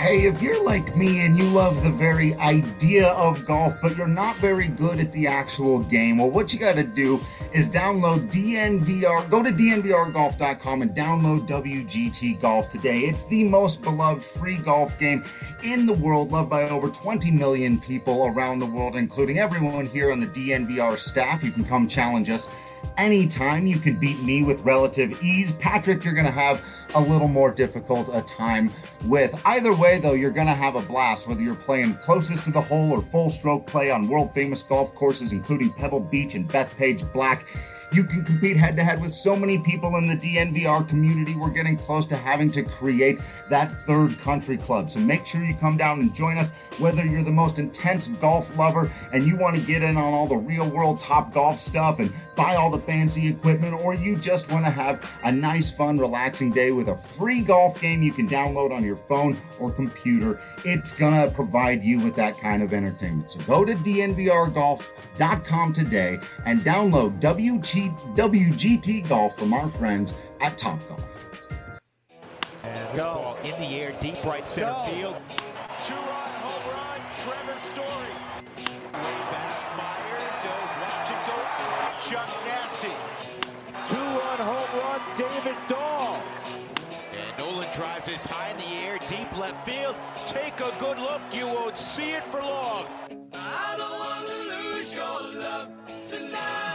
Hey, if you're like me and you love the very idea of golf, but you're not very good at the actual game, well, what you got to do is download DNVR. Go to dnvrgolf.com and download WGT Golf today. It's the most beloved free golf game in the world, loved by over 20 million people around the world, including everyone here on the DNVR staff. You can come challenge us anytime. You can beat me with relative ease. Patrick, you're going to have a little more difficult a time with. Either way, though, you're going to have a blast, whether you're playing closest to the hole or full stroke play on world-famous golf courses, including Pebble Beach and Bethpage Black. You can compete head-to-head with so many people in the DNVR community. We're getting close to having to create that third country club. So make sure you come down and join us, whether you're the most intense golf lover and you want to get in on all the real-world top golf stuff and buy all the fancy equipment, or you just want to have a nice, fun, relaxing day with a free golf game you can download on your phone or computer. It's going to provide you with that kind of entertainment. So go to dnvrgolf.com today and download WGT Golf from our friends at Topgolf. And ball in the air, deep right center field. Two-run home run, Trevor Story. Way back, Myers, watch it go out. Chuck Nasty. Two-run home run, David Dahl. And Nolan drives this high in the air, deep left field. Take a good look, you won't see it for long. I don't want to lose your love tonight.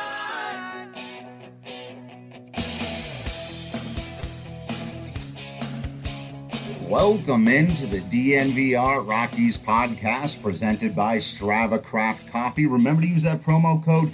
Welcome into the DNVR Rockies podcast presented by Strava Craft Coffee. Remember to use that promo code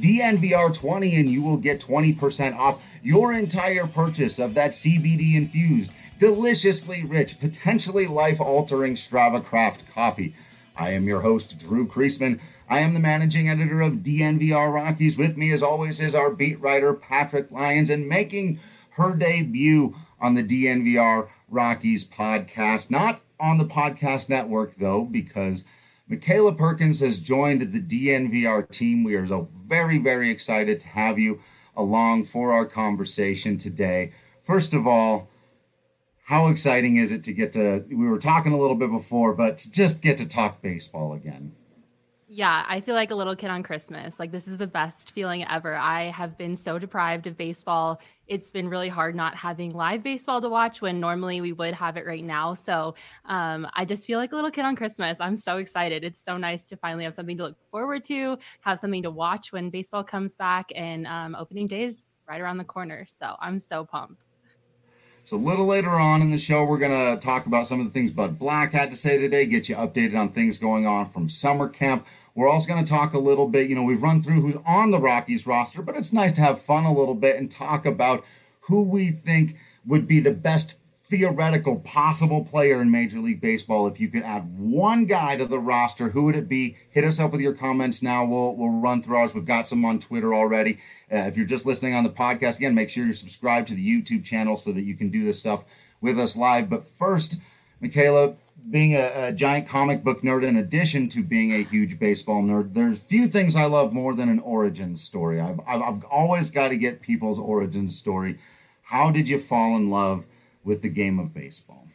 DNVR20 and you will get 20% off your entire purchase of that CBD infused, deliciously rich, potentially life-altering Strava Craft Coffee. I am your host, Drew Kreisman. I am the managing editor of DNVR Rockies. With me, as always, is our beat writer, Patrick Lyons, and making her debut on the DNVR Rockies podcast. Not on the podcast network, though, because Michaela Perkins has joined the DNVR team. We are so very, very excited to have you along for our conversation today. First of all, how exciting is it to get to, we were talking a little bit before, but to just get to talk baseball again? Yeah, I feel like a little kid on Christmas. Like, this is the best feeling ever. I have been so deprived of baseball. It's been really hard not having live baseball to watch when normally we would have it right now. So I just feel like a little kid on Christmas. I'm so excited. It's so nice to finally have something to look forward to, have something to watch when baseball comes back, and opening day is right around the corner. So I'm so pumped. So a little later on in the show, we're going to talk about some of the things Bud Black had to say today, get you updated on things going on from summer camp. We're also going to talk a little bit, we've run through who's on the Rockies roster, but it's nice to have fun a little bit and talk about who we think would be the best theoretical possible player in Major League Baseball. If you could add one guy to the roster, who would it be? Hit us up with your comments now. We'll run through ours. We've got some on Twitter already. If you're just listening on the podcast, again, make sure you're subscribed to the YouTube channel so that you can do this stuff with us live. But first, Michaela, being a giant comic book nerd, in addition to being a huge baseball nerd, there's few things I love more than an origin story. I've always got to get people's origin story. How did you fall in love with the game of baseball?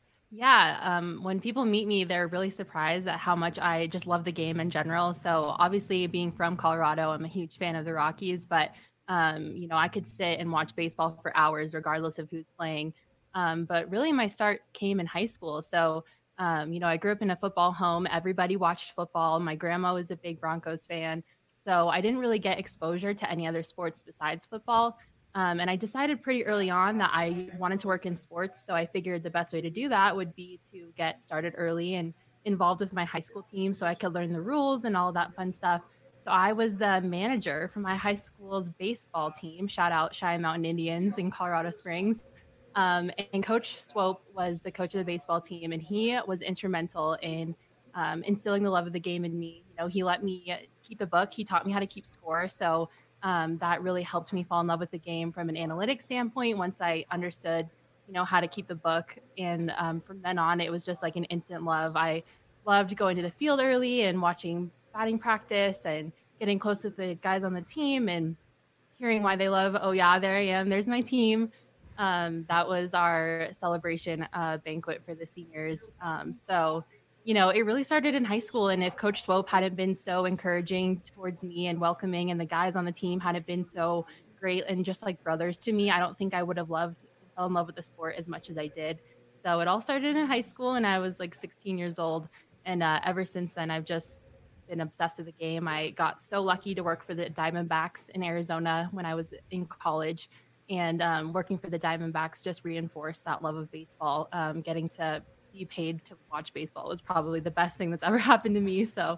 Yeah, when people meet me, they're really surprised at how much I just love the game in general. So obviously, being from Colorado, I'm a huge fan of the Rockies, but I could sit and watch baseball for hours regardless of who's playing. But really, my start came in high school. So I grew up in a football home. Everybody watched football. My grandma was a big Broncos fan. So I didn't really get exposure to any other sports besides football. And I decided pretty early on that I wanted to work in sports. So I figured the best way to do that would be to get started early and involved with my high school team so I could learn the rules and all that fun stuff. So I was the manager for my high school's baseball team. Shout out Cheyenne Mountain Indians in Colorado Springs. And Coach Swope was the coach of the baseball team, and he was instrumental in instilling the love of the game in me. He let me keep the book. He taught me how to keep score. So that really helped me fall in love with the game from an analytics standpoint once I understood, how to keep the book. And from then on, it was just like an instant love. I loved going to the field early and watching batting practice and getting close with the guys on the team and hearing why they love, oh yeah, there I am, there's my team. That was our celebration banquet for the seniors. So, it really started in high school. And if Coach Swope hadn't been so encouraging towards me and welcoming, and the guys on the team hadn't been so great and just like brothers to me, I don't think I would have fell in love with the sport as much as I did. So it all started in high school, and I was like 16 years old. And ever since then, I've just been obsessed with the game. I got so lucky to work for the Diamondbacks in Arizona when I was in college. And working for the Diamondbacks just reinforced that love of baseball. Getting to be paid to watch baseball was probably the best thing that's ever happened to me. So,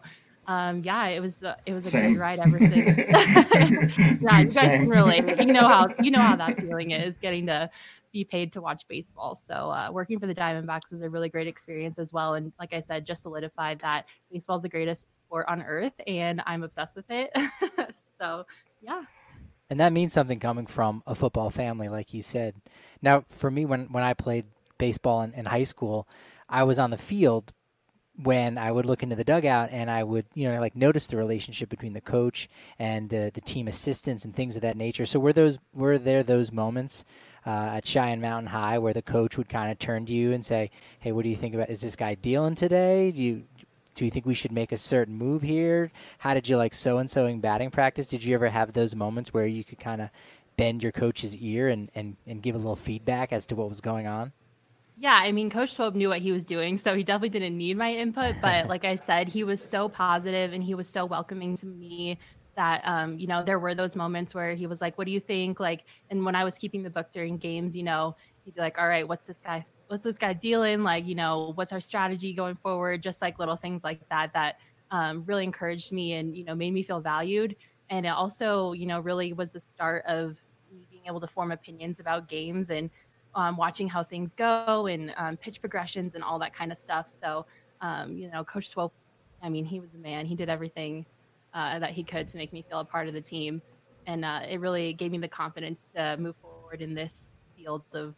it was a great ride ever since. Yeah, Dude, you guys can relate. You know how that feeling is, getting to be paid to watch baseball. So, working for the Diamondbacks was a really great experience as well. And like I said, just solidified that baseball is the greatest sport on earth, and I'm obsessed with it. So, yeah. And that means something coming from a football family, like you said. Now, for me, when I played baseball in high school, I was on the field when I would look into the dugout, and I would, notice the relationship between the coach and the team assistants and things of that nature. So were there those moments at Cheyenne Mountain High where the coach would kind of turn to you and say, "Hey, what do you think about? Is this guy dealing today? Do you think we should make a certain move here? How did you like so-and-so in batting practice?" Did you ever have those moments where you could kind of bend your coach's ear and give a little feedback as to what was going on? Yeah, I mean, Coach Swope knew what he was doing, so he definitely didn't need my input. But like I said, he was so positive and he was so welcoming to me that, there were those moments where he was like, "What do you think?" Like, and when I was keeping the book during games, he'd be like, "All right, what's this guy dealing? Like, what's our strategy going forward?" Just like little things like that really encouraged me and, made me feel valued. And it also, really was the start of me being able to form opinions about games and watching how things go and pitch progressions and all that kind of stuff. So, Coach Swope, I mean, he was the man. He did everything that he could to make me feel a part of the team. And it really gave me the confidence to move forward in this field of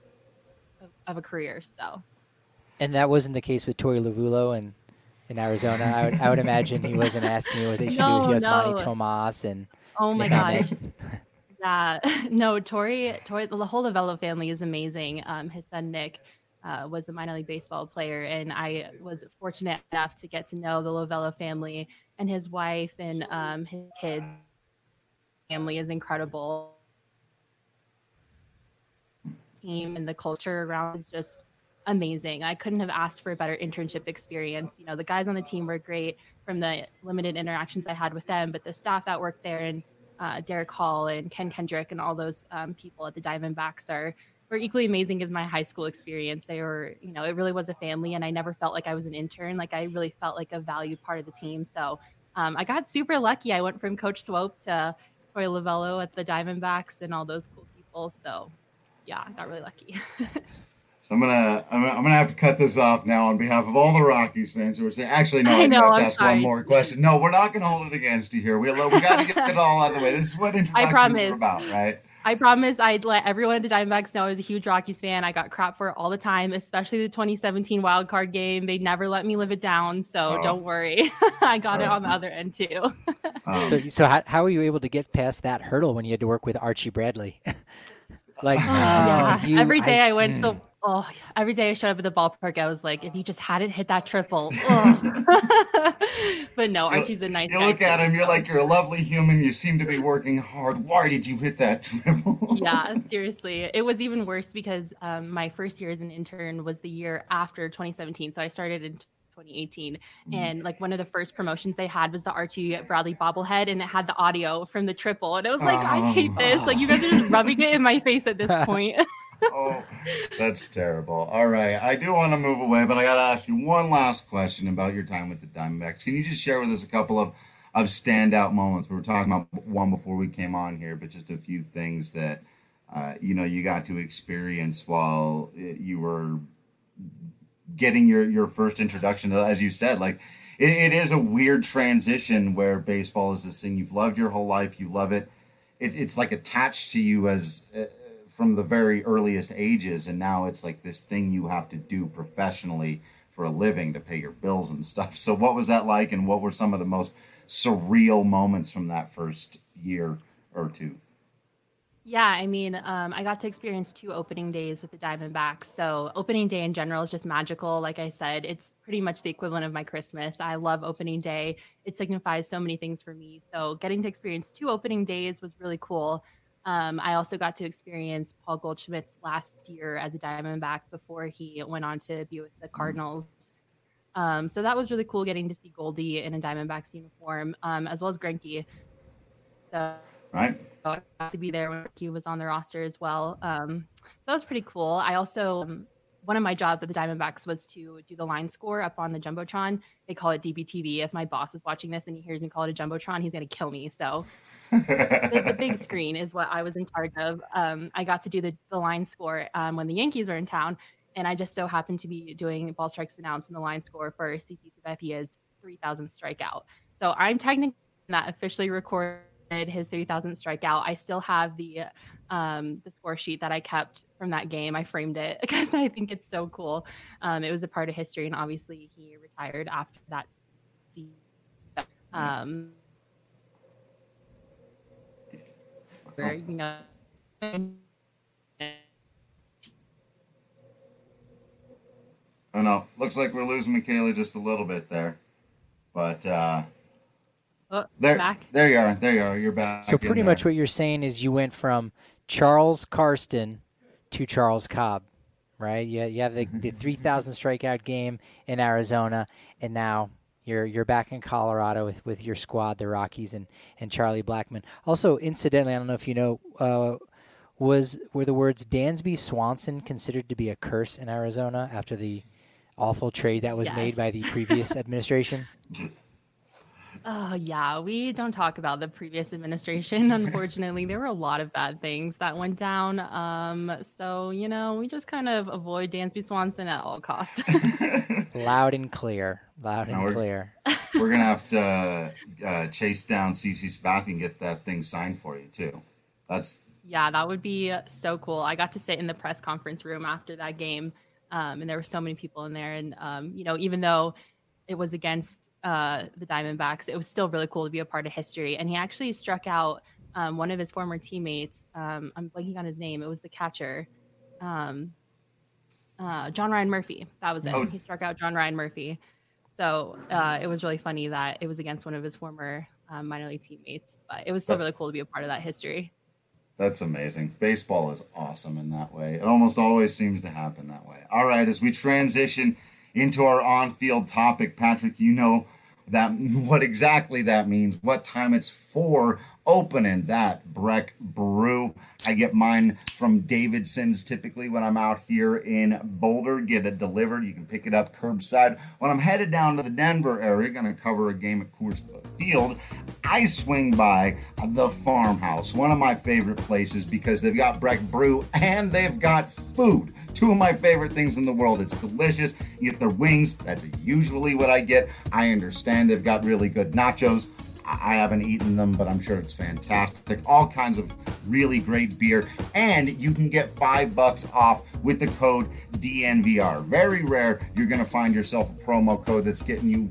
a career. So, and that wasn't the case with Torey Lovullo in Arizona. I would imagine he wasn't asking you what they should do with Yasmani Tomas and. Oh my gosh. Yeah, no, Torey, the whole Lovullo family is amazing. His son Nick was a minor league baseball player, and I was fortunate enough to get to know the Lovullo family and his wife and his kids. Family is incredible. Team and the culture around is just amazing. I couldn't have asked for a better internship experience. The guys on the team were great from the limited interactions I had with them, but the staff that worked there and Derek Hall and Ken Kendrick and all those people at the Diamondbacks were equally amazing as my high school experience. They were, it really was a family, and I never felt like I was an intern. Like, I really felt like a valued part of the team. So I got super lucky. I went from Coach Swope to Torey Lovullo at the Diamondbacks and all those cool people. So yeah, I got really lucky. So I'm gonna have to cut this off now on behalf of all the Rockies fans who are saying, actually, no, I have to ask one more question. No, we're not gonna hold it against you here. We got to get it all out of the way. This is what introductions are about, right? I promise I'd let everyone at the Diamondbacks know I was a huge Rockies fan. I got crap for it all the time, especially the 2017 wild card game. They never let me live it down, so don't worry. I got it on the other end too. So how were you able to get past that hurdle when you had to work with Archie Bradley? Every day every day I showed up at the ballpark, I was like, if you just hadn't hit that triple. But no, Archie's a nice guy. You look at him, you're like, you're a lovely human. You seem to be working hard. Why did you hit that triple? Yeah, seriously. It was even worse because my first year as an intern was the year after 2017. So I started in 2018. And like one of the first promotions they had was the Archie Bradley bobblehead, and it had the audio from the triple. And it was like, I hate this. Like, you guys are just rubbing it in my face at this point. Oh, that's terrible. All right. I do want to move away, but I got to ask you one last question about your time with the Diamondbacks. Can you just share with us a couple of standout moments? We were talking about one before we came on here, but just a few things that, you got to experience while you were getting your first introduction to, as you said, like it is a weird transition where baseball is this thing you've loved your whole life. You love it. It's like attached to you as from the very earliest ages, and now it's like this thing you have to do professionally for a living to pay your bills and stuff. So what was that like, and what were some of the most surreal moments from that first year or two? Yeah, I mean, I got to experience 2 opening days with the Diamondbacks. So opening day in general is just magical. Like I said, it's pretty much the equivalent of my Christmas. I love opening day. It signifies so many things for me. So getting to experience 2 opening days was really cool. I also got to experience Paul Goldschmidt's last year as a Diamondback before he went on to be with the Cardinals. So that was really cool getting to see Goldie in a Diamondbacks uniform, as well as Greinke. So Right? I got to be there when he was on the roster as well. So that was pretty cool. I also, one of my jobs at the Diamondbacks was to do the line score up on the Jumbotron. They call it DBTV. If my boss is watching this and he hears me call it a Jumbotron, he's going to kill me. So the big screen is what I was in charge of. I got to do the line score when the Yankees were in town. And I just so happened to be doing ball strikes announced in the line score for CC Sabathia's 3,000th strikeout. So I'm technically not officially recorded his 3,000th strikeout. I still have the score sheet that I kept from that game. I framed it because I think it's so cool. It was a part of history, and obviously he retired after that season. Where, you know. Oh no, looks like we're losing Michaela just a little bit there, but Back. there you are. There you are. You're back. So pretty much what you're saying is you went from Charles Karsten to Charles Cobb, right? You have the 3,000 strikeout game in Arizona, and now you're back in Colorado with your squad, the Rockies and Charlie Blackmon. Also, incidentally, I don't know if you know, were the words Dansby Swanson considered to be a curse in Arizona after the awful trade that was made by the previous administration? Oh, yeah. We don't talk about the previous administration. Unfortunately, there were a lot of bad things that went down. So, you know, we just kind of avoid Dansby Swanson at all costs. Loud and clear. Loud and clear. We're going to have to chase down CC Sabathia and get that thing signed for you, too. Yeah, that would be so cool. I got to sit in the press conference room after that game, and there were so many people in there. And, you know, even though it was against the Diamondbacks, it was still really cool to be a part of history. And he actually struck out one of his former teammates. I'm blanking on his name. It was the catcher, John Ryan Murphy. That was it. Oh. He struck out John Ryan Murphy. So it was really funny that it was against one of his former minor league teammates. But it was still really cool to be a part of that history. That's amazing. Baseball is awesome in that way. It almost always seems to happen that way. All right, as we transition into our on-field topic, Patrick, you know that what exactly that means, what time it's for opening that Breck Brew. I get mine from Davidson's typically when I'm out here in Boulder, get it delivered. You can pick it up curbside. When I'm headed down to the Denver area, going to cover a game at Coors Field, I swing by the Farmhouse, one of my favorite places because they've got Breck Brew and they've got food. Two of my favorite things in the world. It's delicious. You get their wings. That's usually what I get. I understand they've got really good nachos. I haven't eaten them, but I'm sure it's fantastic. All kinds of really great beer. And you can get $5 off with the code DNVR. Very rare you're going to find yourself a promo code that's getting you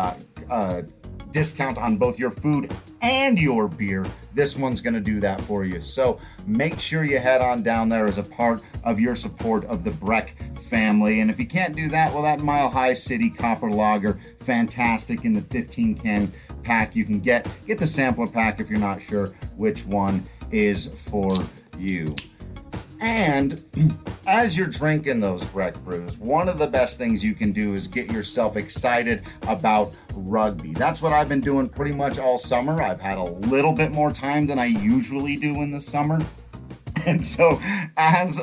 discount on both your food and your beer. This one's going to do that for you. So make sure you head on down there as a part of your support of the Breck family. And if you can't do that, well, that Mile High City Copper Lager, fantastic in the 15-can pack. You can get the sampler pack if you're not sure which one is for you. And as you're drinking those Breck brews, one of the best things you can do is get yourself excited about rugby. That's what I've been doing pretty much all summer. I've had a little bit more time than I usually do in the summer. And so as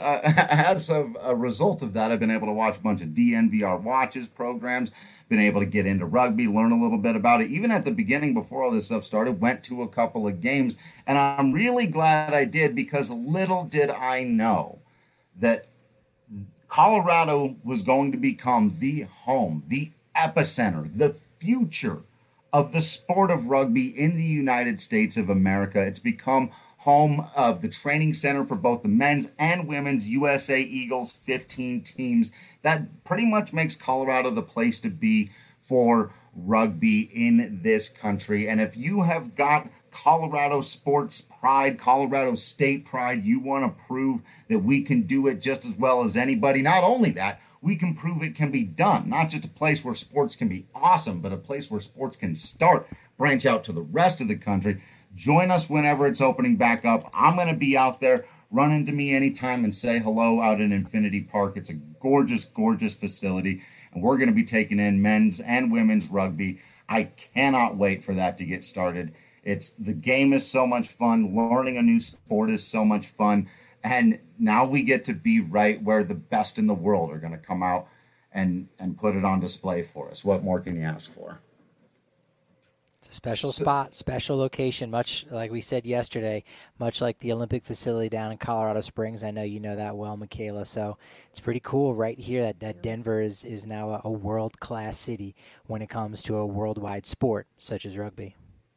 a result of that, I've been able to watch a bunch of DNVR watches programs, been able to get into rugby, learn a little bit about it. Even at the beginning, before all this stuff started, went to a couple of games. And I'm really glad I did because little did I know that Colorado was going to become the home, the epicenter, the future of the sport of rugby in the United States of America. It's become home of the training center for both the men's and women's USA Eagles 15 teams. That pretty much makes Colorado the place to be for rugby in this country. And if you have got Colorado sports pride, Colorado state pride. You want to prove that we can do it just as well as anybody. Not only that, we can prove it can be done. Not just a place where sports can be awesome, but a place where sports can start, branch out to the rest of the country. Join us whenever it's opening back up. I'm going to be out there. Run into me anytime and say hello out in Infinity Park. It's a gorgeous, gorgeous facility, and we're going to be taking in men's and women's rugby. I cannot wait for that to get started. The game is so much fun. Learning a new sport is so much fun. And now we get to be right where the best in the world are going to come out and put it on display for us. What more can you ask for? It's a special spot, special location, much like we said yesterday, much like the Olympic facility down in Colorado Springs. I know you know that well, Michaela. So it's pretty cool right here that Denver is now a world-class city when it comes to a worldwide sport such as rugby.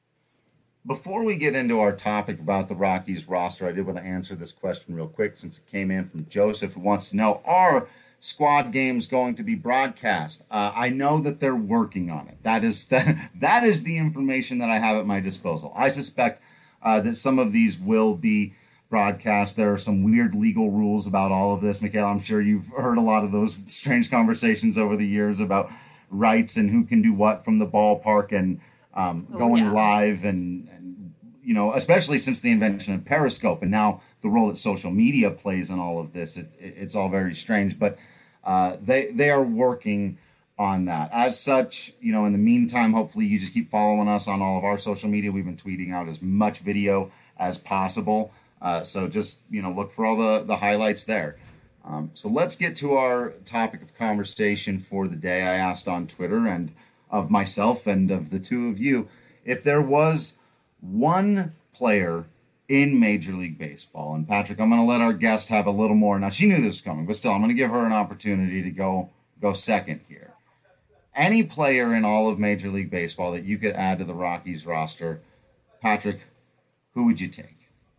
Before we get into our topic about the Rockies roster, I did want to answer this question real quick since it came in from Joseph, who wants to know, are squad games going to be broadcast? I know that they're working on it. That is the information that I have at my disposal. I suspect that some of these will be broadcast. There are some weird legal rules about all of this. Michaela, I'm sure you've heard a lot of those strange conversations over the years about rights and who can do what from the ballpark and going live and especially since the invention of Periscope and now the role that social media plays in all of this. It's all very strange, but they are working on that. As such, in the meantime, hopefully you just keep following us on all of our social media. We've been tweeting out as much video as possible. So just, look for all the highlights there. So let's get to our topic of conversation for the day. I asked on Twitter and of myself and of the two of you, if there was one player in Major League Baseball, and Patrick, I'm going to let our guest have a little more. Now, she knew this was coming, but still, I'm going to give her an opportunity to go second here. Any player in all of Major League Baseball that you could add to the Rockies roster, Patrick, who would you take?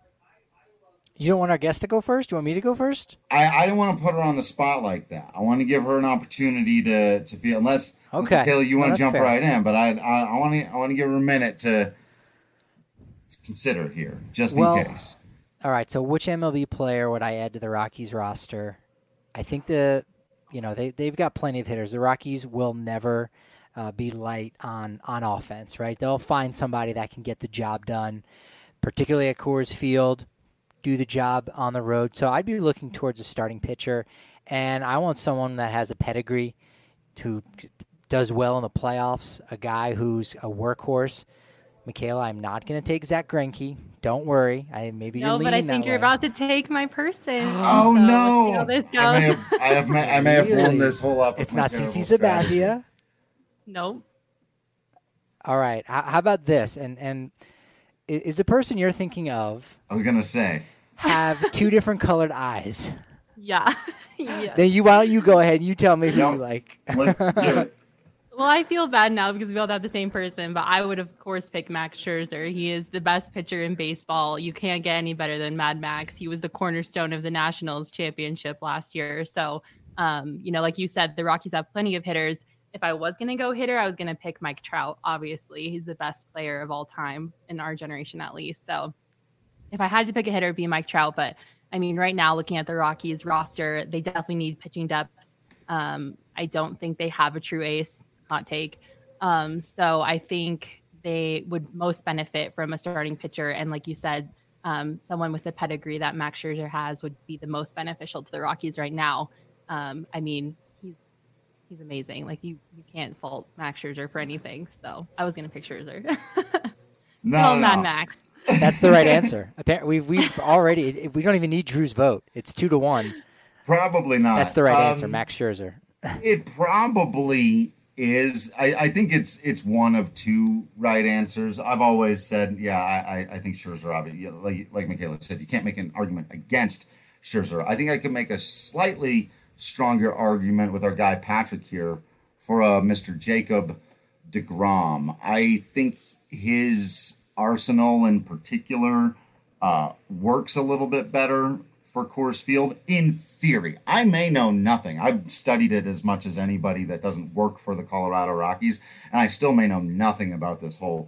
You don't want our guest to go first? Do you want me to go first? I don't want to put her on the spot like that. I want to give her an opportunity to feel, unless Michaela, you want to jump right in, but I want to give her a minute to consider here, just in case. All right, so which MLB player would I add to the Rockies roster? I think they've got plenty of hitters. The Rockies will never be light on offense, right? They'll find somebody that can get the job done, particularly at Coors Field, do the job on the road. So I'd be looking towards a starting pitcher, and I want someone that has a pedigree, who does well in the playoffs, a guy who's a workhorse. Michaela, I'm not going to take Zach Greinke. Don't worry. You're leaning that way. No, but I think you're about to take my person. Oh, so no. Let's see how this goes. I may have blown this whole up. It's not CC Sabathia. Nope. All right. How about this? And is the person you're thinking of, I was going to say, have two different colored eyes? Yeah. Yes. Then why don't you go ahead and you tell me who you like. Let's give it. Well, I feel bad now because we all have the same person, but I would, of course, pick Max Scherzer. He is the best pitcher in baseball. You can't get any better than Mad Max. He was the cornerstone of the Nationals championship last year. So, like you said, the Rockies have plenty of hitters. If I was going to go hitter, I was going to pick Mike Trout, obviously. He's the best player of all time in our generation, at least. So if I had to pick a hitter, it'd be Mike Trout. But, right now, looking at the Rockies roster, they definitely need pitching depth. I don't think they have a true ace. Hot take. So I think they would most benefit from a starting pitcher. And like you said, someone with the pedigree that Max Scherzer has would be the most beneficial to the Rockies right now. He's amazing. Like you can't fault Max Scherzer for anything. So I was going to pick Scherzer. No. Mad Max. That's the right answer. Apparently, we've already, we don't even need Drew's vote. It's 2-1. Probably not. That's the right answer, Max Scherzer. It probably is. I think it's one of two right answers. I've always said, I think Scherzer, obviously, like Michaela said, you can't make an argument against Scherzer. I think I could make a slightly stronger argument with our guy Patrick here for Mr. Jacob deGrom. I think his arsenal in particular works a little bit better for Coors Field in theory. I may know nothing. I've studied it as much as anybody that doesn't work for the Colorado Rockies, and I still may know nothing about this whole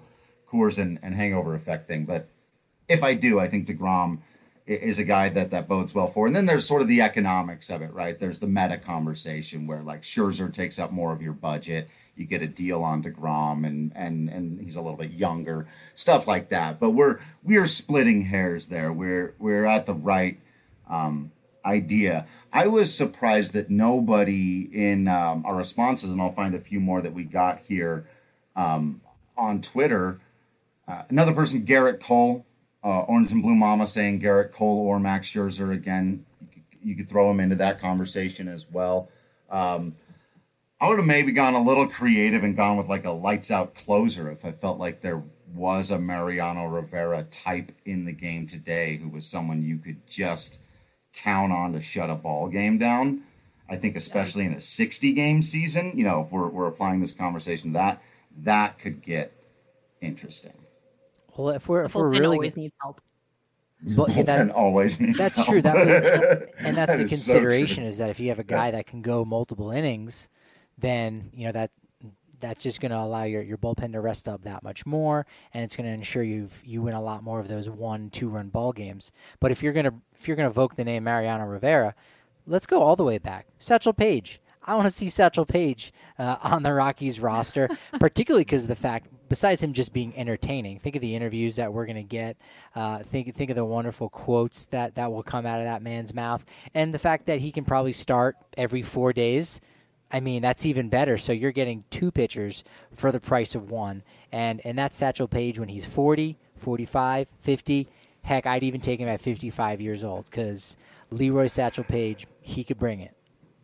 Coors and hangover effect thing. But if I do, I think DeGrom is a guy that bodes well for. And then there's sort of the economics of it, right? There's the meta conversation where like Scherzer takes up more of your budget. You get a deal on DeGrom and he's a little bit younger, stuff like that. But we are splitting hairs there. We're at the right idea. I was surprised that nobody in our responses, and I'll find a few more that we got here on Twitter. Another person, Garrett Cole, Orange and Blue Mama, saying Garrett Cole or Max Scherzer again. You could throw him into that conversation as well. I would have maybe gone a little creative and gone with like a lights out closer if I felt like there was a Mariano Rivera type in the game today who was someone you could just count on to shut a ball game down. I think especially in a 60-game season, if we're applying this conversation to that could get interesting. Well, if we're really always needs help. Well, that always needs that's help. true. And that's That the is consideration so is that if you have a guy that can go multiple innings, then that's just going to allow your bullpen to rest up that much more, and it's going to ensure you win a lot more of those 1-2 run ball games. But if you're going to evoke the name Mariano Rivera, let's go all the way back. Satchel Paige. I want to see Satchel Paige on the Rockies roster, particularly because of the fact, besides him just being entertaining, think of the interviews that we're going to get. Think of the wonderful quotes that will come out of that man's mouth, and the fact that he can probably start every 4 days. I mean, that's even better. So you're getting 2 pitchers for the price of 1. And that's Satchel Paige when he's 40, 45, 50. Heck, I'd even take him at 55 years old because Leroy Satchel Paige, he could bring it.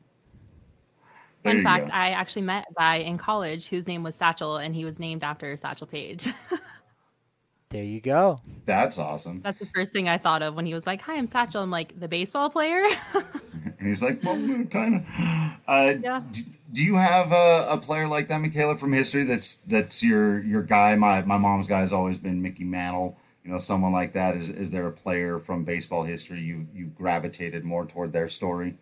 Fun fact, I actually met a guy in college whose name was Satchel, and he was named after Satchel Paige. There you go. That's awesome. That's the first thing I thought of when he was like, "Hi, I'm Satchel." I'm like, "The baseball player?" And he's like, well, kind of. Yeah. Do you have a player like that, Michaela, from history that's your guy? My mom's guy has always been Mickey Mantle. Someone like that. Is there a player from baseball history you've gravitated more toward their story?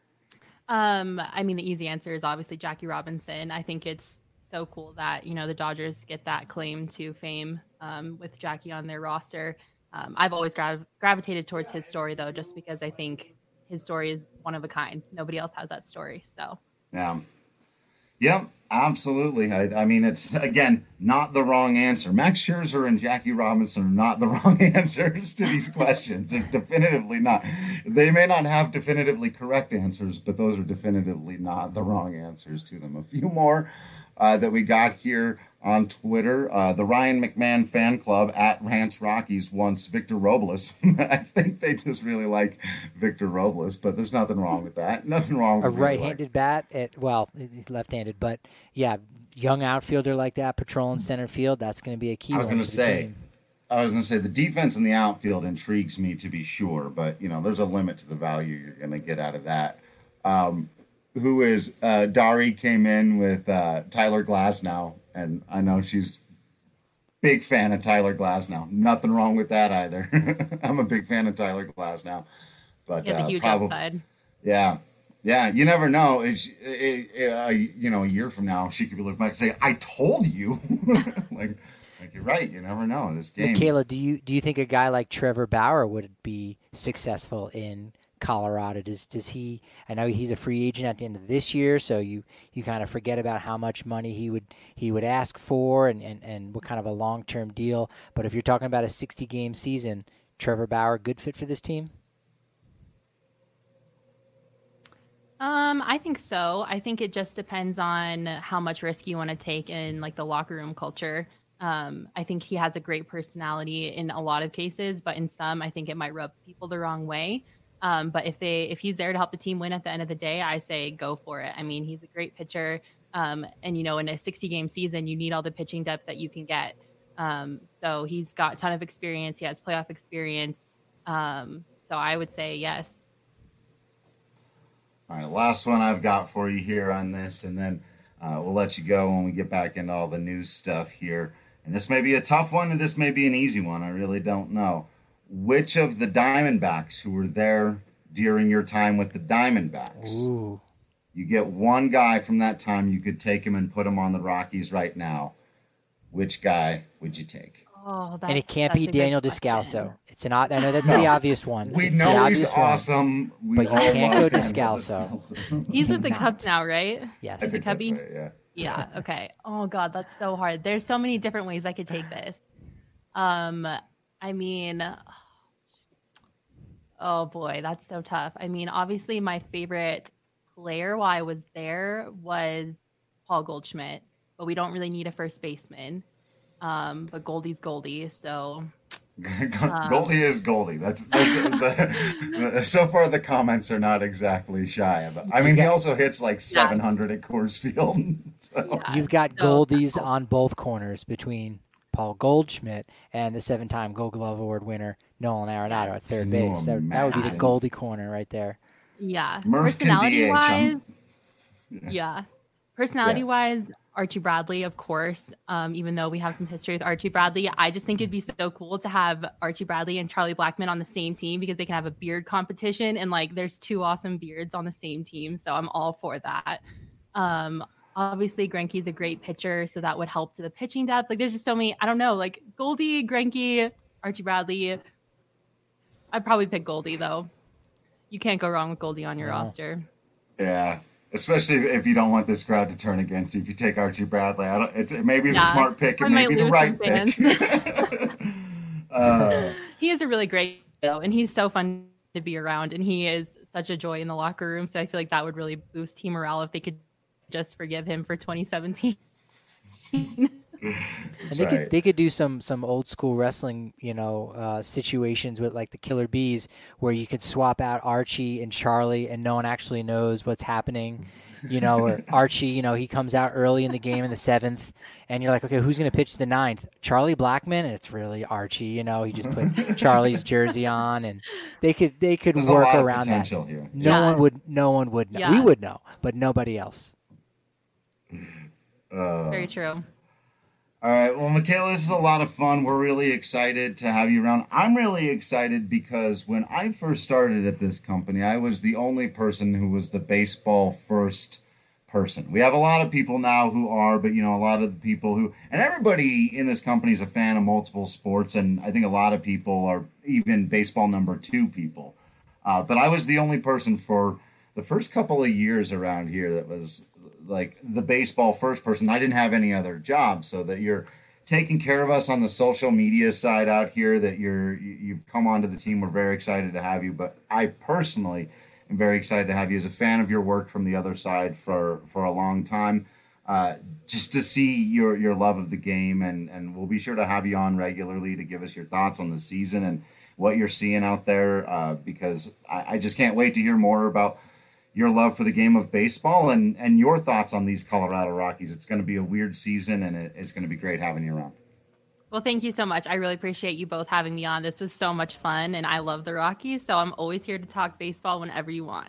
I mean, the easy answer is obviously Jackie Robinson. I think it's so cool that, the Dodgers get that claim to fame with Jackie on their roster. I've always gravitated towards his story, though, just because I think his story is one of a kind. Nobody else has that story. So, yeah, absolutely. I mean, it's, again, not the wrong answer. Max Scherzer and Jackie Robinson are not the wrong answers to these questions. They're definitively not. They may not have definitively correct answers, but those are definitively not the wrong answers to them. A few more that we got here on Twitter. The Ryan McMahon fan club at Rants Rockies wants Victor Robles. I think they just really like Victor Robles, but there's nothing wrong with that. Nothing wrong with a right-handed bat. He's left-handed, but yeah, young outfielder like that, patrolling center field. That's going to be a key. I was going to say the defense in the outfield intrigues me to be sure, but there's a limit to the value you're going to get out of that. Who is Dari came in with Tyler Glasnow. And I know she's big fan of Tyler Glasnow. Nothing wrong with that either. I'm a big fan of Tyler Glasnow. But he has a huge upside. Yeah. You never know. A year from now, she could be looking back and say, "I told you." like you're right. You never know in this game. Michaela, do you think a guy like Trevor Bauer would be successful in Colorado? Does he? I know he's a free agent at the end of this year, so you kind of forget about how much money he would ask for and what kind of a long-term deal. But if you're talking about a 60-game season, Trevor Bauer, good fit for this team? I think so. I think it just depends on how much risk you want to take in like the locker room culture. I think he has a great personality in a lot of cases, but in some, I think it might rub people the wrong way. But if he's there to help the team win at the end of the day, I say go for it. I mean, he's a great pitcher. And in a 60-game season, you need all the pitching depth that you can get. So he's got a ton of experience. He has playoff experience. So I would say yes. All right, last one I've got for you here on this, and then we'll let you go when we get back into all the news stuff here. And this may be a tough one, and this may be an easy one. I really don't know. Which of the Diamondbacks who were there during your time with the Diamondbacks? Ooh. You get one guy from that time. You could take him and put him on the Rockies right now. which guy would you take? Oh, that's And it can't such be a good Daniel question. Descalso. It's not. I know that's the obvious one. We It's the know he's obvious one. awesome. We but you all can't love go Daniel Descalso. He's with the Not. Cubs now, right? Yes. I think that's Cubby? right, yeah. Yeah. Okay. Oh God, that's so hard. There's so many different ways I could take this. I mean, oh boy, that's so tough. I mean, obviously, my favorite player while I was there was Paul Goldschmidt, but we don't really need a first baseman. But Goldie's Goldie, so Goldie is Goldie. That's so far the comments are not exactly shy about. I mean, he also hits like 700 at Coors Field. So. yeah. You've got So- Goldies on both corners between Paul Goldschmidt and the 7-time Gold Glove Award winner Nolan Arenado at third Can you base. That would be the imagine? Goldie corner right there. Yeah. Murph can Personality DH. wise, yeah. Personality wise, Archie Bradley, of course. Even though we have some history with Archie Bradley, I just think it'd be so cool to have Archie Bradley and Charlie Blackmon on the same team because they can have a beard competition and like there's two awesome beards on the same team. So I'm all for that. Obviously Greinke's a great pitcher, so that would help to the pitching depth. Like there's just so many, I don't know, like Goldie, Greinke, Archie Bradley. I'd probably pick Goldie though. You can't go wrong with Goldie on your roster. Yeah, especially if you don't want this crowd to turn against you. If you take Archie Bradley, it may be the smart pick. It I may might be the lose right some pick. He is a really great though, and he's so fun to be around, and he is such a joy in the locker room. So I feel like that would really boost team morale if they could just forgive him for 2017. And they could do some old school wrestling, situations with like the Killer Bees where you could swap out Archie and Charlie and no one actually knows what's happening. Or Archie, he comes out early in the game in the 7th and you're like, okay, who's going to pitch the 9th? Charlie Blackmon? And it's really Archie, he just put Charlie's jersey on and they could There's work a lot around of that. potential here. No one would know. Yeah. We would know, but nobody else. Very true. All right. Well, Michaela, this is a lot of fun. We're really excited to have you around. I'm really excited because when I first started at this company, I was the only person who was the baseball first person. We have a lot of people now who are, but, a lot of the people who, and everybody in this company is a fan of multiple sports. And I think a lot of people are even baseball number 2 people. But I was the only person for the first couple of years around here that was like the baseball first person. I didn't have any other job, so that you're taking care of us on the social media side out here, that you've come onto the team. We're very excited to have you, but I personally am very excited to have you as a fan of your work from the other side for a long time. Just to see your love of the game, and we'll be sure to have you on regularly to give us your thoughts on the season and what you're seeing out there, because I just can't wait to hear more about your love for the game of baseball and your thoughts on these Colorado Rockies. It's going to be a weird season, and it's going to be great having you around. Well, thank you so much. I really appreciate you both having me on. This was so much fun, and I love the Rockies, so I'm always here to talk baseball whenever you want.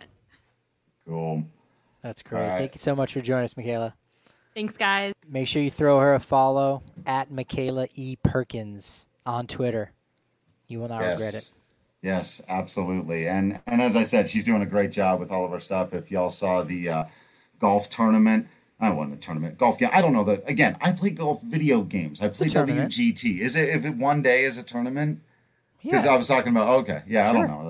Cool. That's great. All right. Thank you so much for joining us, Michaela. Thanks, guys. Make sure you throw her a follow at Michaela E. Perkins on Twitter. You will not regret it. Yes, absolutely. And as I said, she's doing a great job with all of our stuff. If y'all saw the golf tournament, I won a tournament golf game. I don't know that. Again, I play golf video games. I play tournament. WGT. Is it if it one day is a tournament? Because Yeah. I was talking about. Okay, yeah, Sure. I don't know.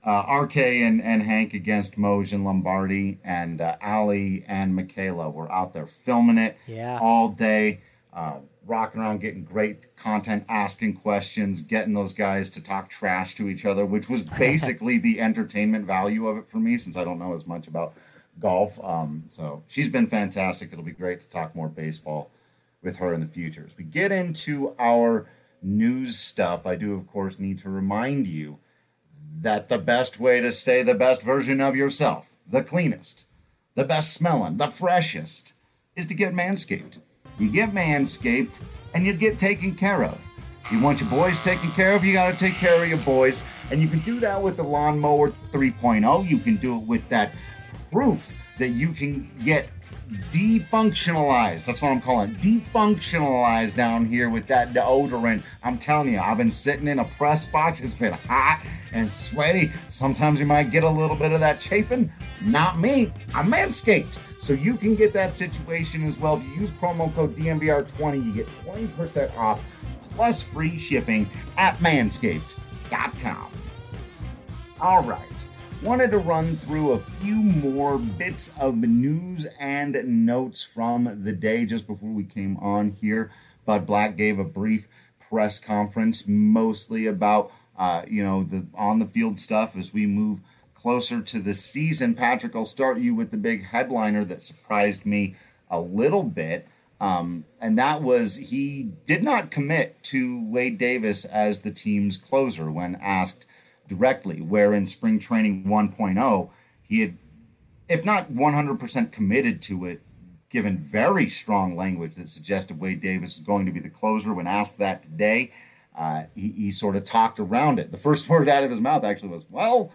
RK and Hank against Moj and Lombardi, and Ali and Michaela were out there filming it all day, rocking around, getting great content, asking questions, getting those guys to talk trash to each other, which was basically the entertainment value of it for me, since I don't know as much about golf. So she's been fantastic. It'll be great to talk more baseball with her in the future. As we get into our news stuff, I do, of course, need to remind you that the best way to stay the best version of yourself, the cleanest, the best smelling, the freshest, is to get Manscaped. You get Manscaped, and you get taken care of. You want your boys taken care of, you got to take care of your boys. And you can do that with the Lawnmower 3.0. You can do it with that proof that you can get defunctionalized. That's what I'm calling it. Defunctionalized down here with that deodorant. I'm telling you, I've been sitting in a press box. It's been hot and sweaty. Sometimes you might get a little bit of that chafing. Not me. I'm Manscaped. So you can get that situation as well. If you use promo code DNVR20, you get 20% off plus free shipping at manscaped.com. All right. Wanted to run through a few more bits of news and notes from the day just before we came on here. Bud Black gave a brief press conference, mostly about, the on-the-field stuff as we move closer to the season. Patrick, I'll start you with the big headliner that surprised me a little bit, and that was he did not commit to Wade Davis as the team's closer when asked directly, where in spring training 1.0, he had, if not 100% committed to it, given very strong language that suggested Wade Davis is going to be the closer. When asked that today, he sort of talked around it. The first word out of his mouth actually was, well,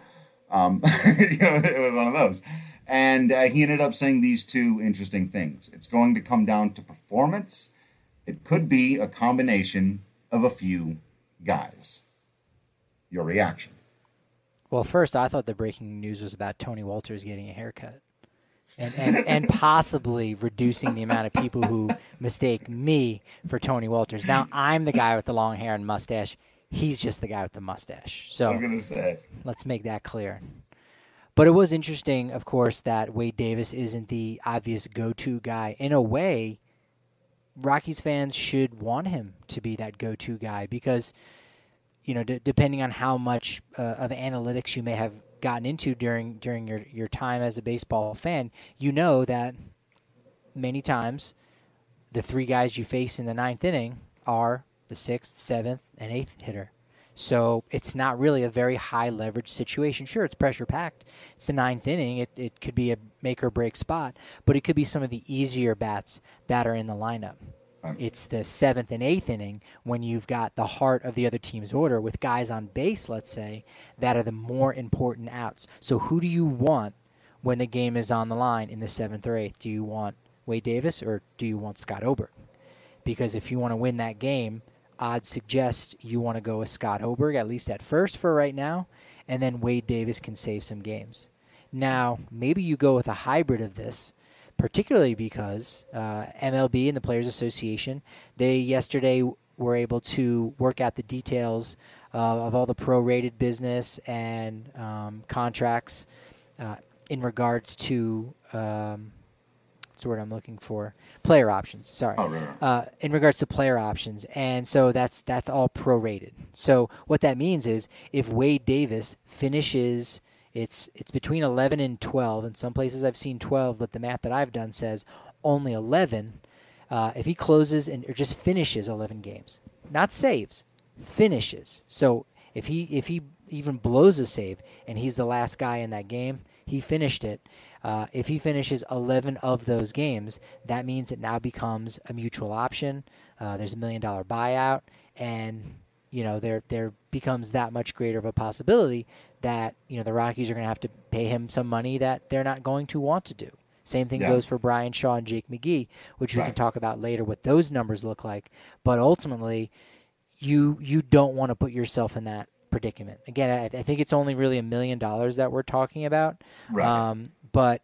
it was one of those. And he ended up saying these two interesting things. It's going to come down to performance. It could be a combination of a few guys. Your reaction? Well, first, I thought the breaking news was about Tony Walters getting a haircut and possibly reducing the amount of people who mistake me for Tony Walters. Now, I'm the guy with the long hair and mustache. He's just the guy with the mustache. So I was going to say, let's make that clear. But it was interesting, of course, that Wade Davis isn't the obvious go-to guy. In a way, Rockies fans should want him to be that go-to guy because – depending on how much of analytics you may have gotten into during your time as a baseball fan, you know that many times the three guys you face in the ninth inning are the sixth, seventh, and eighth hitter. So it's not really a very high leverage situation. Sure, it's pressure packed. It's the ninth inning. It could be a make or break spot, but it could be some of the easier bats that are in the lineup. It's the seventh and eighth inning when you've got the heart of the other team's order with guys on base, let's say, that are the more important outs. So who do you want when the game is on the line in the seventh or eighth? Do you want Wade Davis or do you want Scott Oberg? Because if you want to win that game, odds suggest you want to go with Scott Oberg, at least at first for right now, and then Wade Davis can save some games. Now, maybe you go with a hybrid of this, particularly because MLB and the Players Association, they yesterday were able to work out the details of all the prorated business and contracts in regards to what's the word I'm looking for? Player options. Sorry. Oh, right. In regards to player options, and so that's all prorated. So what that means is if Wade Davis finishes. It's between 11 and 12. In some places I've seen 12, but the math that I've done says only 11. If he closes or just finishes 11 games, not saves, finishes. So if he even blows a save and he's the last guy in that game, he finished it. If he finishes 11 of those games, that means it now becomes a mutual option. There's $1 million buyout, and there becomes that much greater of a possibility that, the Rockies are going to have to pay him some money that they're not going to want to do. Same thing goes for Brian Shaw and Jake McGee, which we can talk about later what those numbers look like. But ultimately, you don't want to put yourself in that predicament. Again, I think it's only really $1 million that we're talking about. Right. But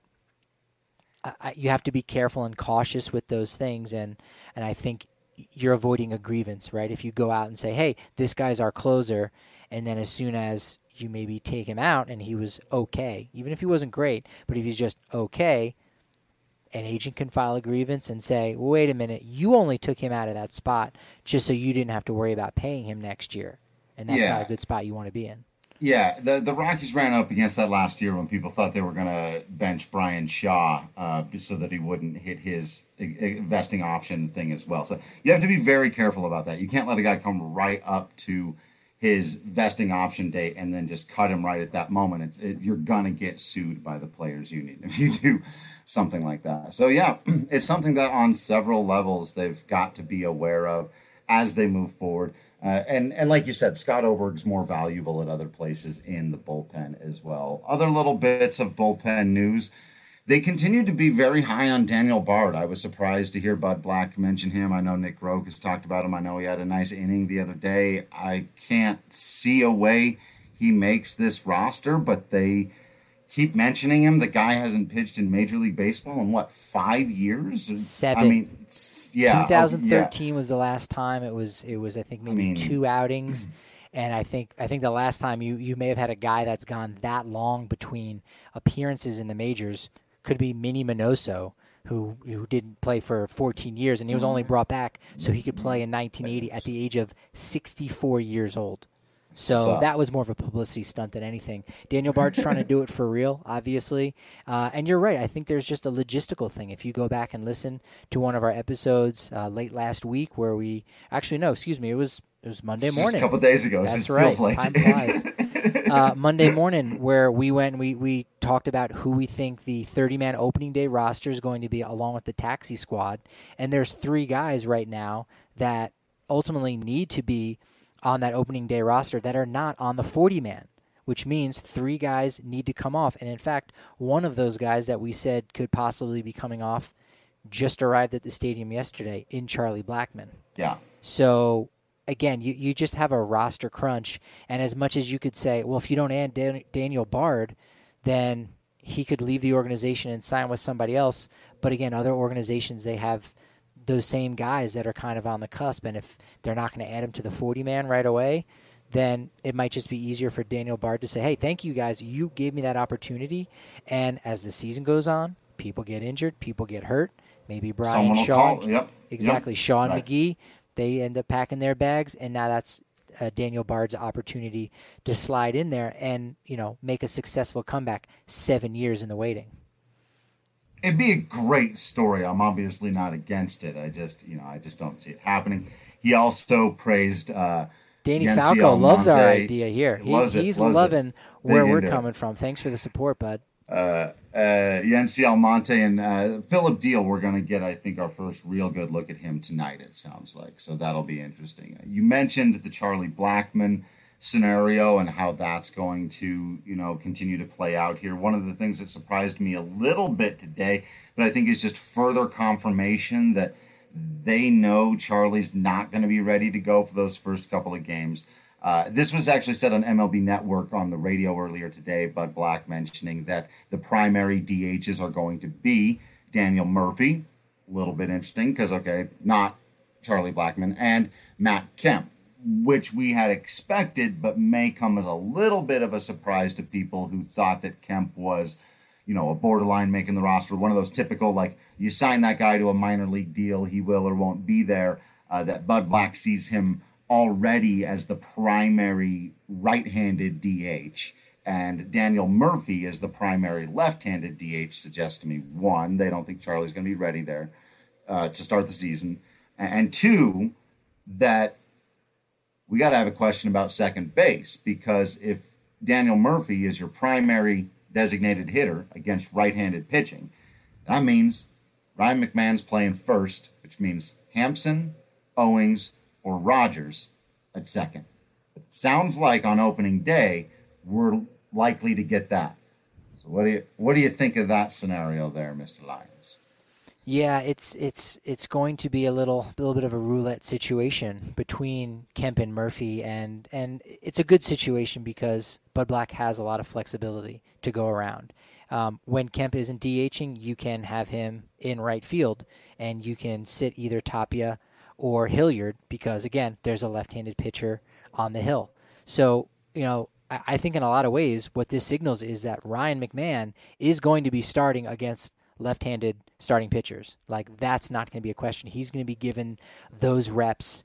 you have to be careful and cautious with those things, and I think you're avoiding a grievance, right? If you go out and say, hey, this guy's our closer, and then as soon as you maybe take him out and he was okay, even if he wasn't great, but if he's just okay, an agent can file a grievance and say, wait a minute, you only took him out of that spot just so you didn't have to worry about paying him next year. And that's not a good spot you want to be in. Yeah, the Rockies ran up against that last year when people thought they were going to bench Brian Shaw so that he wouldn't hit his vesting option thing as well. So you have to be very careful about that. You can't let a guy come right up to his vesting option date and then just cut him right at that moment. You're going to get sued by the players union if you do something like that. So, yeah, it's something that on several levels they've got to be aware of as they move forward. And like you said, Scott Oberg's more valuable at other places in the bullpen as well. Other little bits of bullpen news. They continue to be very high on Daniel Bard. I was surprised to hear Bud Black mention him. I know Nick Roque has talked about him. I know he had a nice inning the other day. I can't see a way he makes this roster, but they keep mentioning him. The guy hasn't pitched in Major League Baseball in, 5 years? 7. I mean, yeah. 2013 was the last time. It was I think maybe 2 outings. And I think the last time you may have had a guy that's gone that long between appearances in the majors could be Minnie Minoso, who didn't play for 14 years, and he was only brought back so he could play in 1980 at the age of 64 years old. So that was more of a publicity stunt than anything. Daniel Bard's trying to do it for real, obviously. And you're right. I think there's just a logistical thing. If you go back and listen to one of our episodes late last week where we – actually, no, excuse me. It was Monday morning. A couple of days ago. That's it right. Feels like Time flies. Monday morning where we went and we talked about who we think the 30-man opening day roster is going to be along with the taxi squad. And there's 3 guys right now that ultimately need to be on that opening day roster that are not on the 40-man, which means 3 guys need to come off. And in fact, one of those guys that we said could possibly be coming off just arrived at the stadium yesterday in Charlie Blackmon. Yeah. So again, you just have a roster crunch. And as much as you could say, well, if you don't add Daniel Bard, then he could leave the organization and sign with somebody else. But again, other organizations, they have those same guys that are kind of on the cusp. And if they're not going to add him to the 40-man right away, then it might just be easier for Daniel Bard to say, hey, thank you guys. You gave me that opportunity. And as the season goes on, people get injured, people get hurt. Maybe Brian Shaw. Yep. Exactly. Yep. Shaw and Right. McGee, they end up packing their bags. And now that's Daniel Bard's opportunity to slide in there and, make a successful comeback 7 years in the waiting. It'd be a great story. I'm obviously not against it. I just don't see it happening. He also praised Danny Yency Falco loves our Almonte. idea here. He's Loves loving where Big we're into it. coming from. Thanks for the support, bud. Yency Almonte and Philip Deal. We're going to get, I think, our first real good look at him tonight, it sounds like. So that'll be interesting. You mentioned the Charlie Blackmon scenario and how that's going to, continue to play out here. One of the things that surprised me a little bit today, but I think is just further confirmation that they know Charlie's not going to be ready to go for those first couple of games. This was actually said on MLB Network on the radio earlier today, Bud Black mentioning that the primary DHs are going to be Daniel Murphy, a little bit interesting because, not Charlie Blackmon, and Matt Kemp, which we had expected, but may come as a little bit of a surprise to people who thought that Kemp was, a borderline making the roster, one of those typical, you sign that guy to a minor league deal, he will or won't be there, that Bud Black sees him already as the primary right-handed DH, and Daniel Murphy is the primary left-handed DH, suggests to me, 1, they don't think Charlie's going to be ready there to start the season, and 2, that we got to have a question about second base, because if Daniel Murphy is your primary designated hitter against right-handed pitching, that means Ryan McMahon's playing first, which means Hampson, Owings, or Rogers at second. It sounds like on opening day, we're likely to get that. So what do you think of that scenario there, Mr. Lyons? Yeah, it's going to be a little bit of a roulette situation between Kemp and Murphy, and it's a good situation because Bud Black has a lot of flexibility to go around. When Kemp isn't DHing, you can have him in right field, and you can sit either Tapia or Hilliard because, again, there's a left-handed pitcher on the hill. So, I think in a lot of ways what this signals is that Ryan McMahon is going to be starting against left-handed starting pitchers. That's not going to be a question. He's going to be given those reps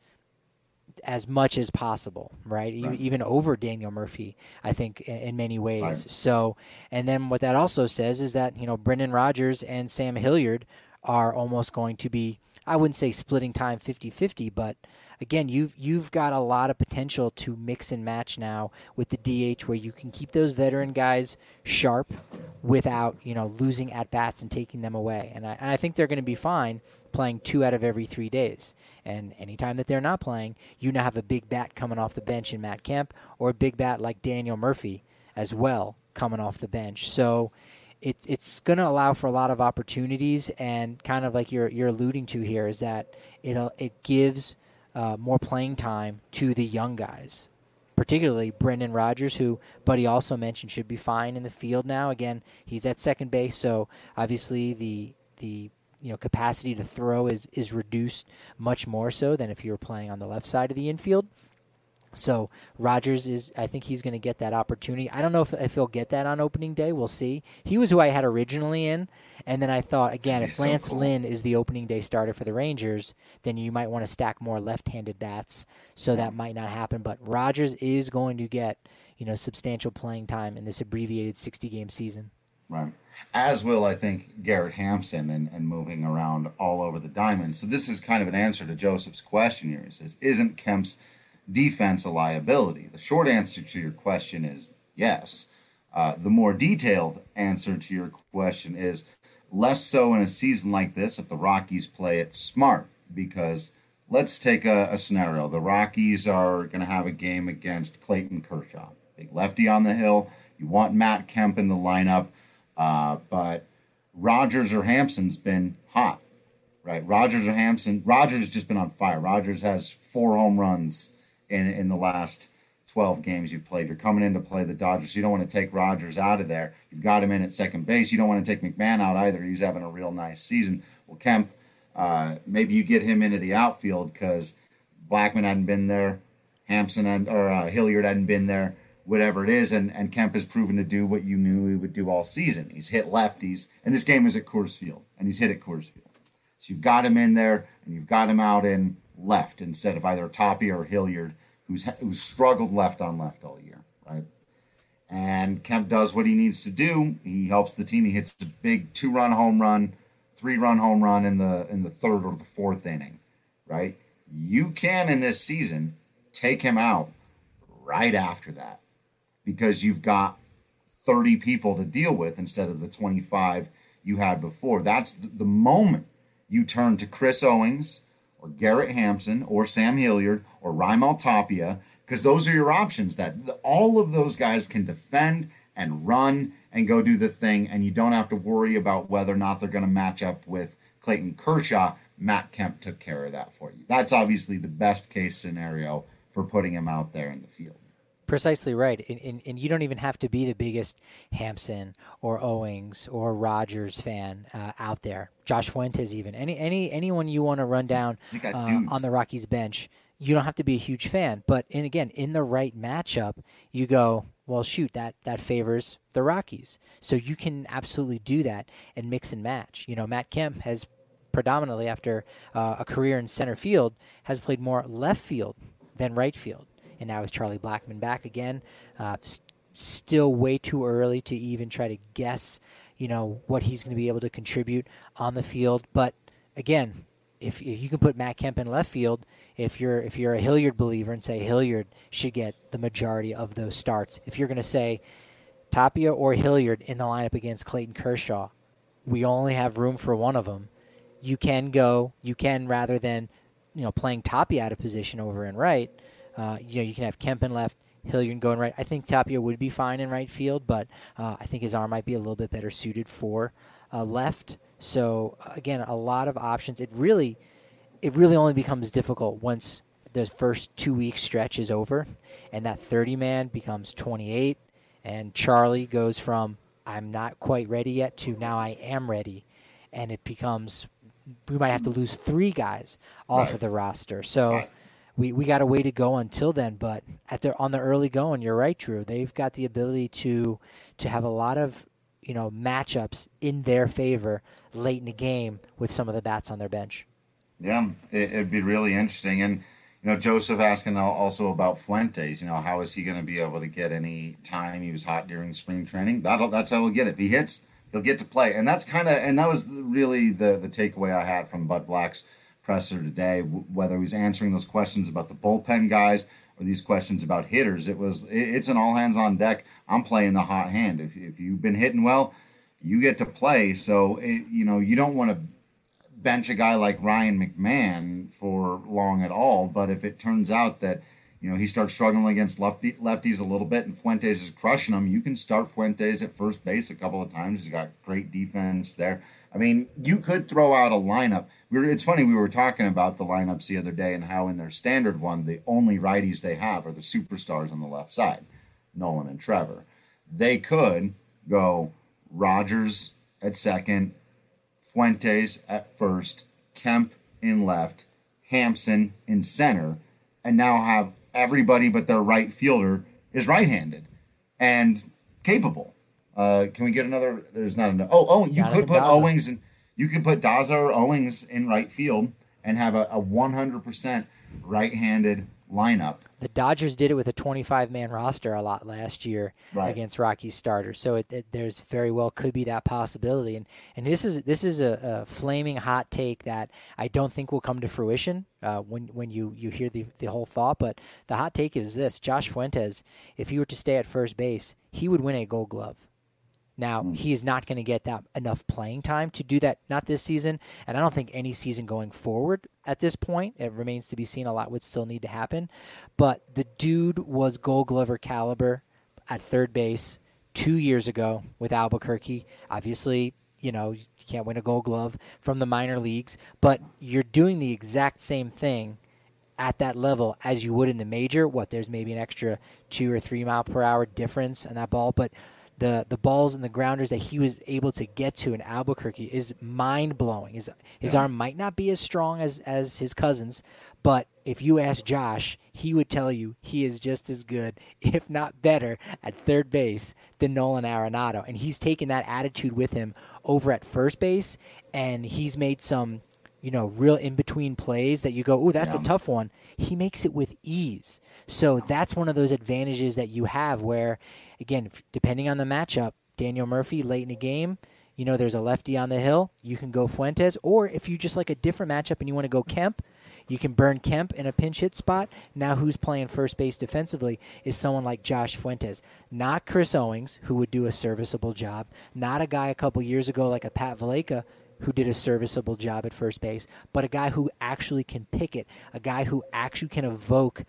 as much as possible, right? Even over Daniel Murphy, I think, in many ways. Right. So, and then what that also says is that, Brendan Rodgers and Sam Hilliard are almost going to be, I wouldn't say splitting time 50-50, but again, you've got a lot of potential to mix and match now with the DH where you can keep those veteran guys sharp without, losing at-bats and taking them away. And I think they're going to be fine playing 2 out of every 3 days. And anytime that they're not playing, you now have a big bat coming off the bench in Matt Kemp or a big bat like Daniel Murphy as well coming off the bench. So it's going to allow for a lot of opportunities, and kind of like you're alluding to here is that it gives more playing time to the young guys, particularly Brendan Rodgers, who Buddy also mentioned should be fine in the field now. Again, he's at second base, so obviously the capacity to throw is reduced much more so than if you were playing on the left side of the infield. So Rodgers I think he's going to get that opportunity. I don't know if he'll get that on opening day. We'll see. He was who I had originally in, and then I thought, again, if Lance Lynn is the opening day starter for the Rangers, then you might want to stack more left-handed bats, so that might not happen. But Rodgers is going to get, substantial playing time in this abbreviated 60-game season. Right. As will, I think, Garrett Hampson and moving around all over the diamond. So this is kind of an answer to Joseph's question here. He says, isn't Kemp's defense a liability? The short answer to your question is yes. The more detailed answer to your question is less so in a season like this if the Rockies play it smart. Because let's take a scenario. The Rockies are going to have a game against Clayton Kershaw. Big lefty on the hill. You want Matt Kemp in the lineup. But Rodgers or Hampson's been hot, right? Rodgers has just been on fire. Rodgers has 4 home runs in the last 12 games you've played. You're coming in to play the Dodgers. You don't want to take Rodgers out of there. You've got him in at second base. You don't want to take McMahon out either. He's having a real nice season. Well, Kemp, maybe you get him into the outfield because Blackmon hadn't been there, Hilliard hadn't been there, whatever it is, and Kemp has proven to do what you knew he would do all season. He's hit lefties, and this game is at Coors Field, and he's hit at Coors Field. So you've got him in there, and you've got him out in left instead of either Tapia or Hilliard, who's struggled left on left all year, right? And Kemp does what he needs to do. He helps the team. He hits a big 2-run home run, 3-run home run in the third or the fourth inning, right? You can, in this season, take him out right after that, because you've got 30 people to deal with instead of the 25 you had before. That's the moment you turn to Chris Owings or Garrett Hampson or Sam Hilliard or Raimel Tapia, because those are your options. That all of those guys can defend and run and go do the thing, and you don't have to worry about whether or not they're going to match up with Clayton Kershaw. Matt Kemp took care of that for you. That's obviously the best case scenario for putting him out there in the field. Precisely right, and you don't even have to be the biggest Hampson or Owings or Rodgers fan out there. Josh Fuentes, even anyone you want to run down on the Rockies bench, you don't have to be a huge fan. But in the right matchup, you go, well, shoot, that favors the Rockies. So you can absolutely do that and mix and match. Matt Kemp has predominantly, after a career in center field, has played more left field than right field. And now with Charlie Blackmon back again, still way too early to even try to guess, what he's going to be able to contribute on the field. But again, if you can put Matt Kemp in left field, if you're a Hilliard believer and say Hilliard should get the majority of those starts, if you're going to say Tapia or Hilliard in the lineup against Clayton Kershaw, we only have room for one of them. You can rather than playing Tapia out of position over in right. You can have Kemp in left, Hilliard go in right. I think Tapia would be fine in right field, but I think his arm might be a little bit better suited for left. So again, a lot of options. It really only becomes difficult once the first 2-week stretch is over, and that 30-man becomes 28, and Charlie goes from I'm not quite ready yet to now I am ready, and it becomes we might have to lose 3 guys off of the roster. So. We got a way to go until then, but on the early going, you're right, Drew. They've got the ability to have a lot of matchups in their favor late in the game with some of the bats on their bench. Yeah, it'd be really interesting. And Joseph asking also about Fuentes. How is he going to be able to get any time? He was hot during spring training. That's how he'll get it. If he hits, he'll get to play. And that was really the takeaway I had from Bud Black's presser today, whether he was answering those questions about the bullpen guys or these questions about hitters. It's an all hands on deck. I'm playing the hot hand. If you've been hitting well, you get to play. So you don't want to bench a guy like Ryan McMahon for long at all. But if it turns out that he starts struggling against lefties a little bit, and Fuentes is crushing him. You can start Fuentes at first base a couple of times. He's got great defense there. I mean, you could throw out a lineup. It's funny, we were talking about the lineups the other day and how in their standard one, the only righties they have are the superstars on the left side, Nolan and Trevor. They could go Rogers at second, Fuentes at first, Kemp in left, Hampson in center, and now have everybody but their right fielder is right-handed and capable. Can we get another? There's not enough. You could put Daza. Owings and you could put Daza or Owings in right field and have a 100% right-handed lineup. The Dodgers did it with a 25-man roster a lot last year against Rockies starters, so there's very well could be that possibility. And this is a flaming hot take that I don't think will come to fruition when you hear the whole thought. But the hot take is this: Josh Fuentes, if he were to stay at first base, he would win a Gold Glove. Now, he is not going to get that enough playing time to do that, not this season, and I don't think any season going forward at this point. It remains to be seen. A lot would still need to happen. But the dude was Gold Glover caliber at third base 2 years ago with Albuquerque. Obviously, you can't win a Gold Glove from the minor leagues, but you're doing the exact same thing at that level as you would in the major. There's maybe an extra 2 or 3 mile per hour difference on that ball, but the balls and the grounders that he was able to get to in Albuquerque is mind-blowing. His arm might not be as strong as his cousins, but if you ask Josh, he would tell you he is just as good, if not better, at third base than Nolan Arenado. And he's taken that attitude with him over at first base, and he's made some real in-between plays that you go, ooh, that's a tough one. He makes it with ease. So that's one of those advantages that you have where, again, depending on the matchup, Daniel Murphy late in the game, there's a lefty on the hill, you can go Fuentes. Or if you just like a different matchup and you want to go Kemp, you can burn Kemp in a pinch hit spot. Now who's playing first base defensively is someone like Josh Fuentes. Not Chris Owings, who would do a serviceable job. Not a guy a couple years ago like a Pat Valaika, who did a serviceable job at first base, but a guy who actually can pick it, a guy who actually can evoke,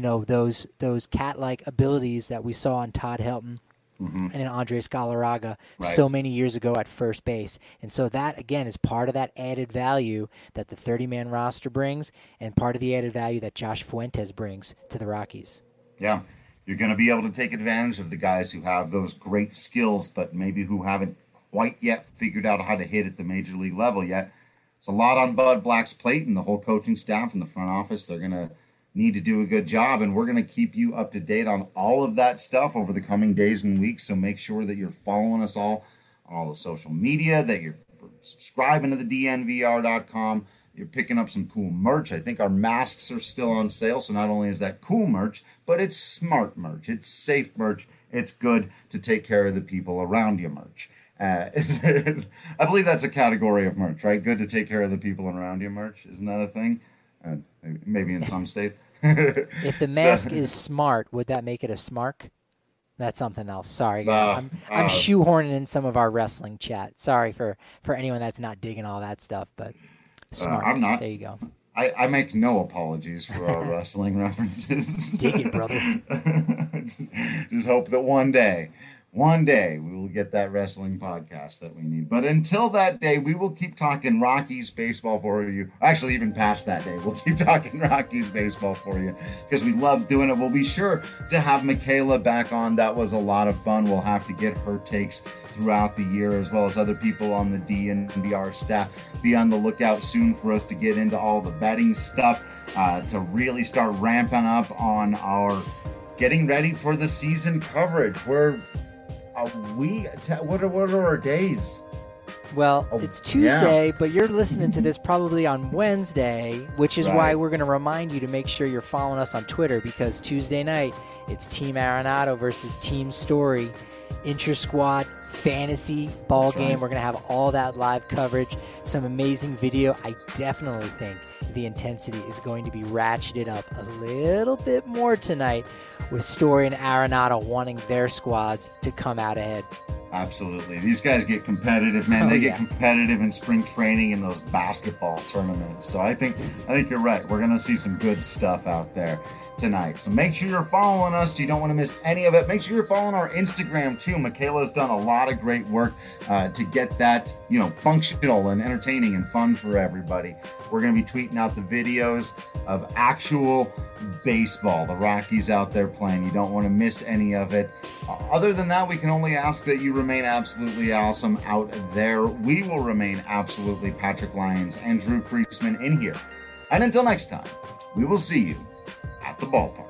those cat-like abilities that we saw on Todd Helton and in Andres Galarraga so many years ago at first base. And so that, again, is part of that added value that the 30-man roster brings and part of the added value that Josh Fuentes brings to the Rockies. Yeah, you're going to be able to take advantage of the guys who have those great skills, but maybe who haven't quite yet figured out how to hit at the major league level yet. It's a lot on Bud Black's plate and the whole coaching staff and the front office. They're going to need to do a good job, and we're going to keep you up to date on all of that stuff over the coming days and weeks. So make sure that you're following us all on all the social media, that you're subscribing to the DNVR.com. You're picking up some cool merch. I think our masks are still on sale. So not only is that cool merch, but it's smart merch. It's safe merch. It's good to take care of the people around you merch. I believe that's a category of merch, right? Good to take care of the people around you merch. Isn't that a thing? Maybe in some state. If the mask is smart, would that make it a smark? That's something else. Sorry, I'm shoehorning in some of our wrestling chat. Sorry for anyone that's not digging all that stuff, but smart. I'm not. There you go. I make no apologies for our wrestling references. Dig it, brother. Just hope that one day we will get that wrestling podcast that we need. But until that day, we will keep talking Rockies baseball for you. Actually, even past that day, we'll keep talking Rockies baseball for you because we love doing it. We'll be sure to have Michaela back on. That was a lot of fun. We'll have to get her takes throughout the year, as well as other people on the DNVR staff. Be on the lookout soon for us to get into all the betting stuff, to really start ramping up on our getting ready for the season coverage. What are our days? Well, it's Tuesday, but you're listening to this probably on Wednesday, which is why we're going to remind you to make sure you're following us on Twitter, because Tuesday night, it's Team Arenado versus Team Story, intra-squad fantasy ball game. We're going to have all that live coverage, some amazing video. I definitely think the intensity is going to be ratcheted up a little bit more tonight with Story and Arenado wanting their squads to come out ahead. Absolutely. These guys get competitive, man. Oh, They yeah. get competitive in spring training and those basketball tournaments. So I think you're right. We're going to see some good stuff out there tonight. So make sure you're following us so you don't want to miss any of it. Make sure you're following our Instagram too. Michaela's done a lot of great work to get that, functional and entertaining and fun for everybody. We're going to be tweeting out the videos of actual baseball, the Rockies out there playing. You don't want to miss any of it. Other than that, we can only ask that you remain absolutely awesome out there. We will remain absolutely Patrick Lyons and Drew Creasman in here. And until next time, we will see you at the ballpark.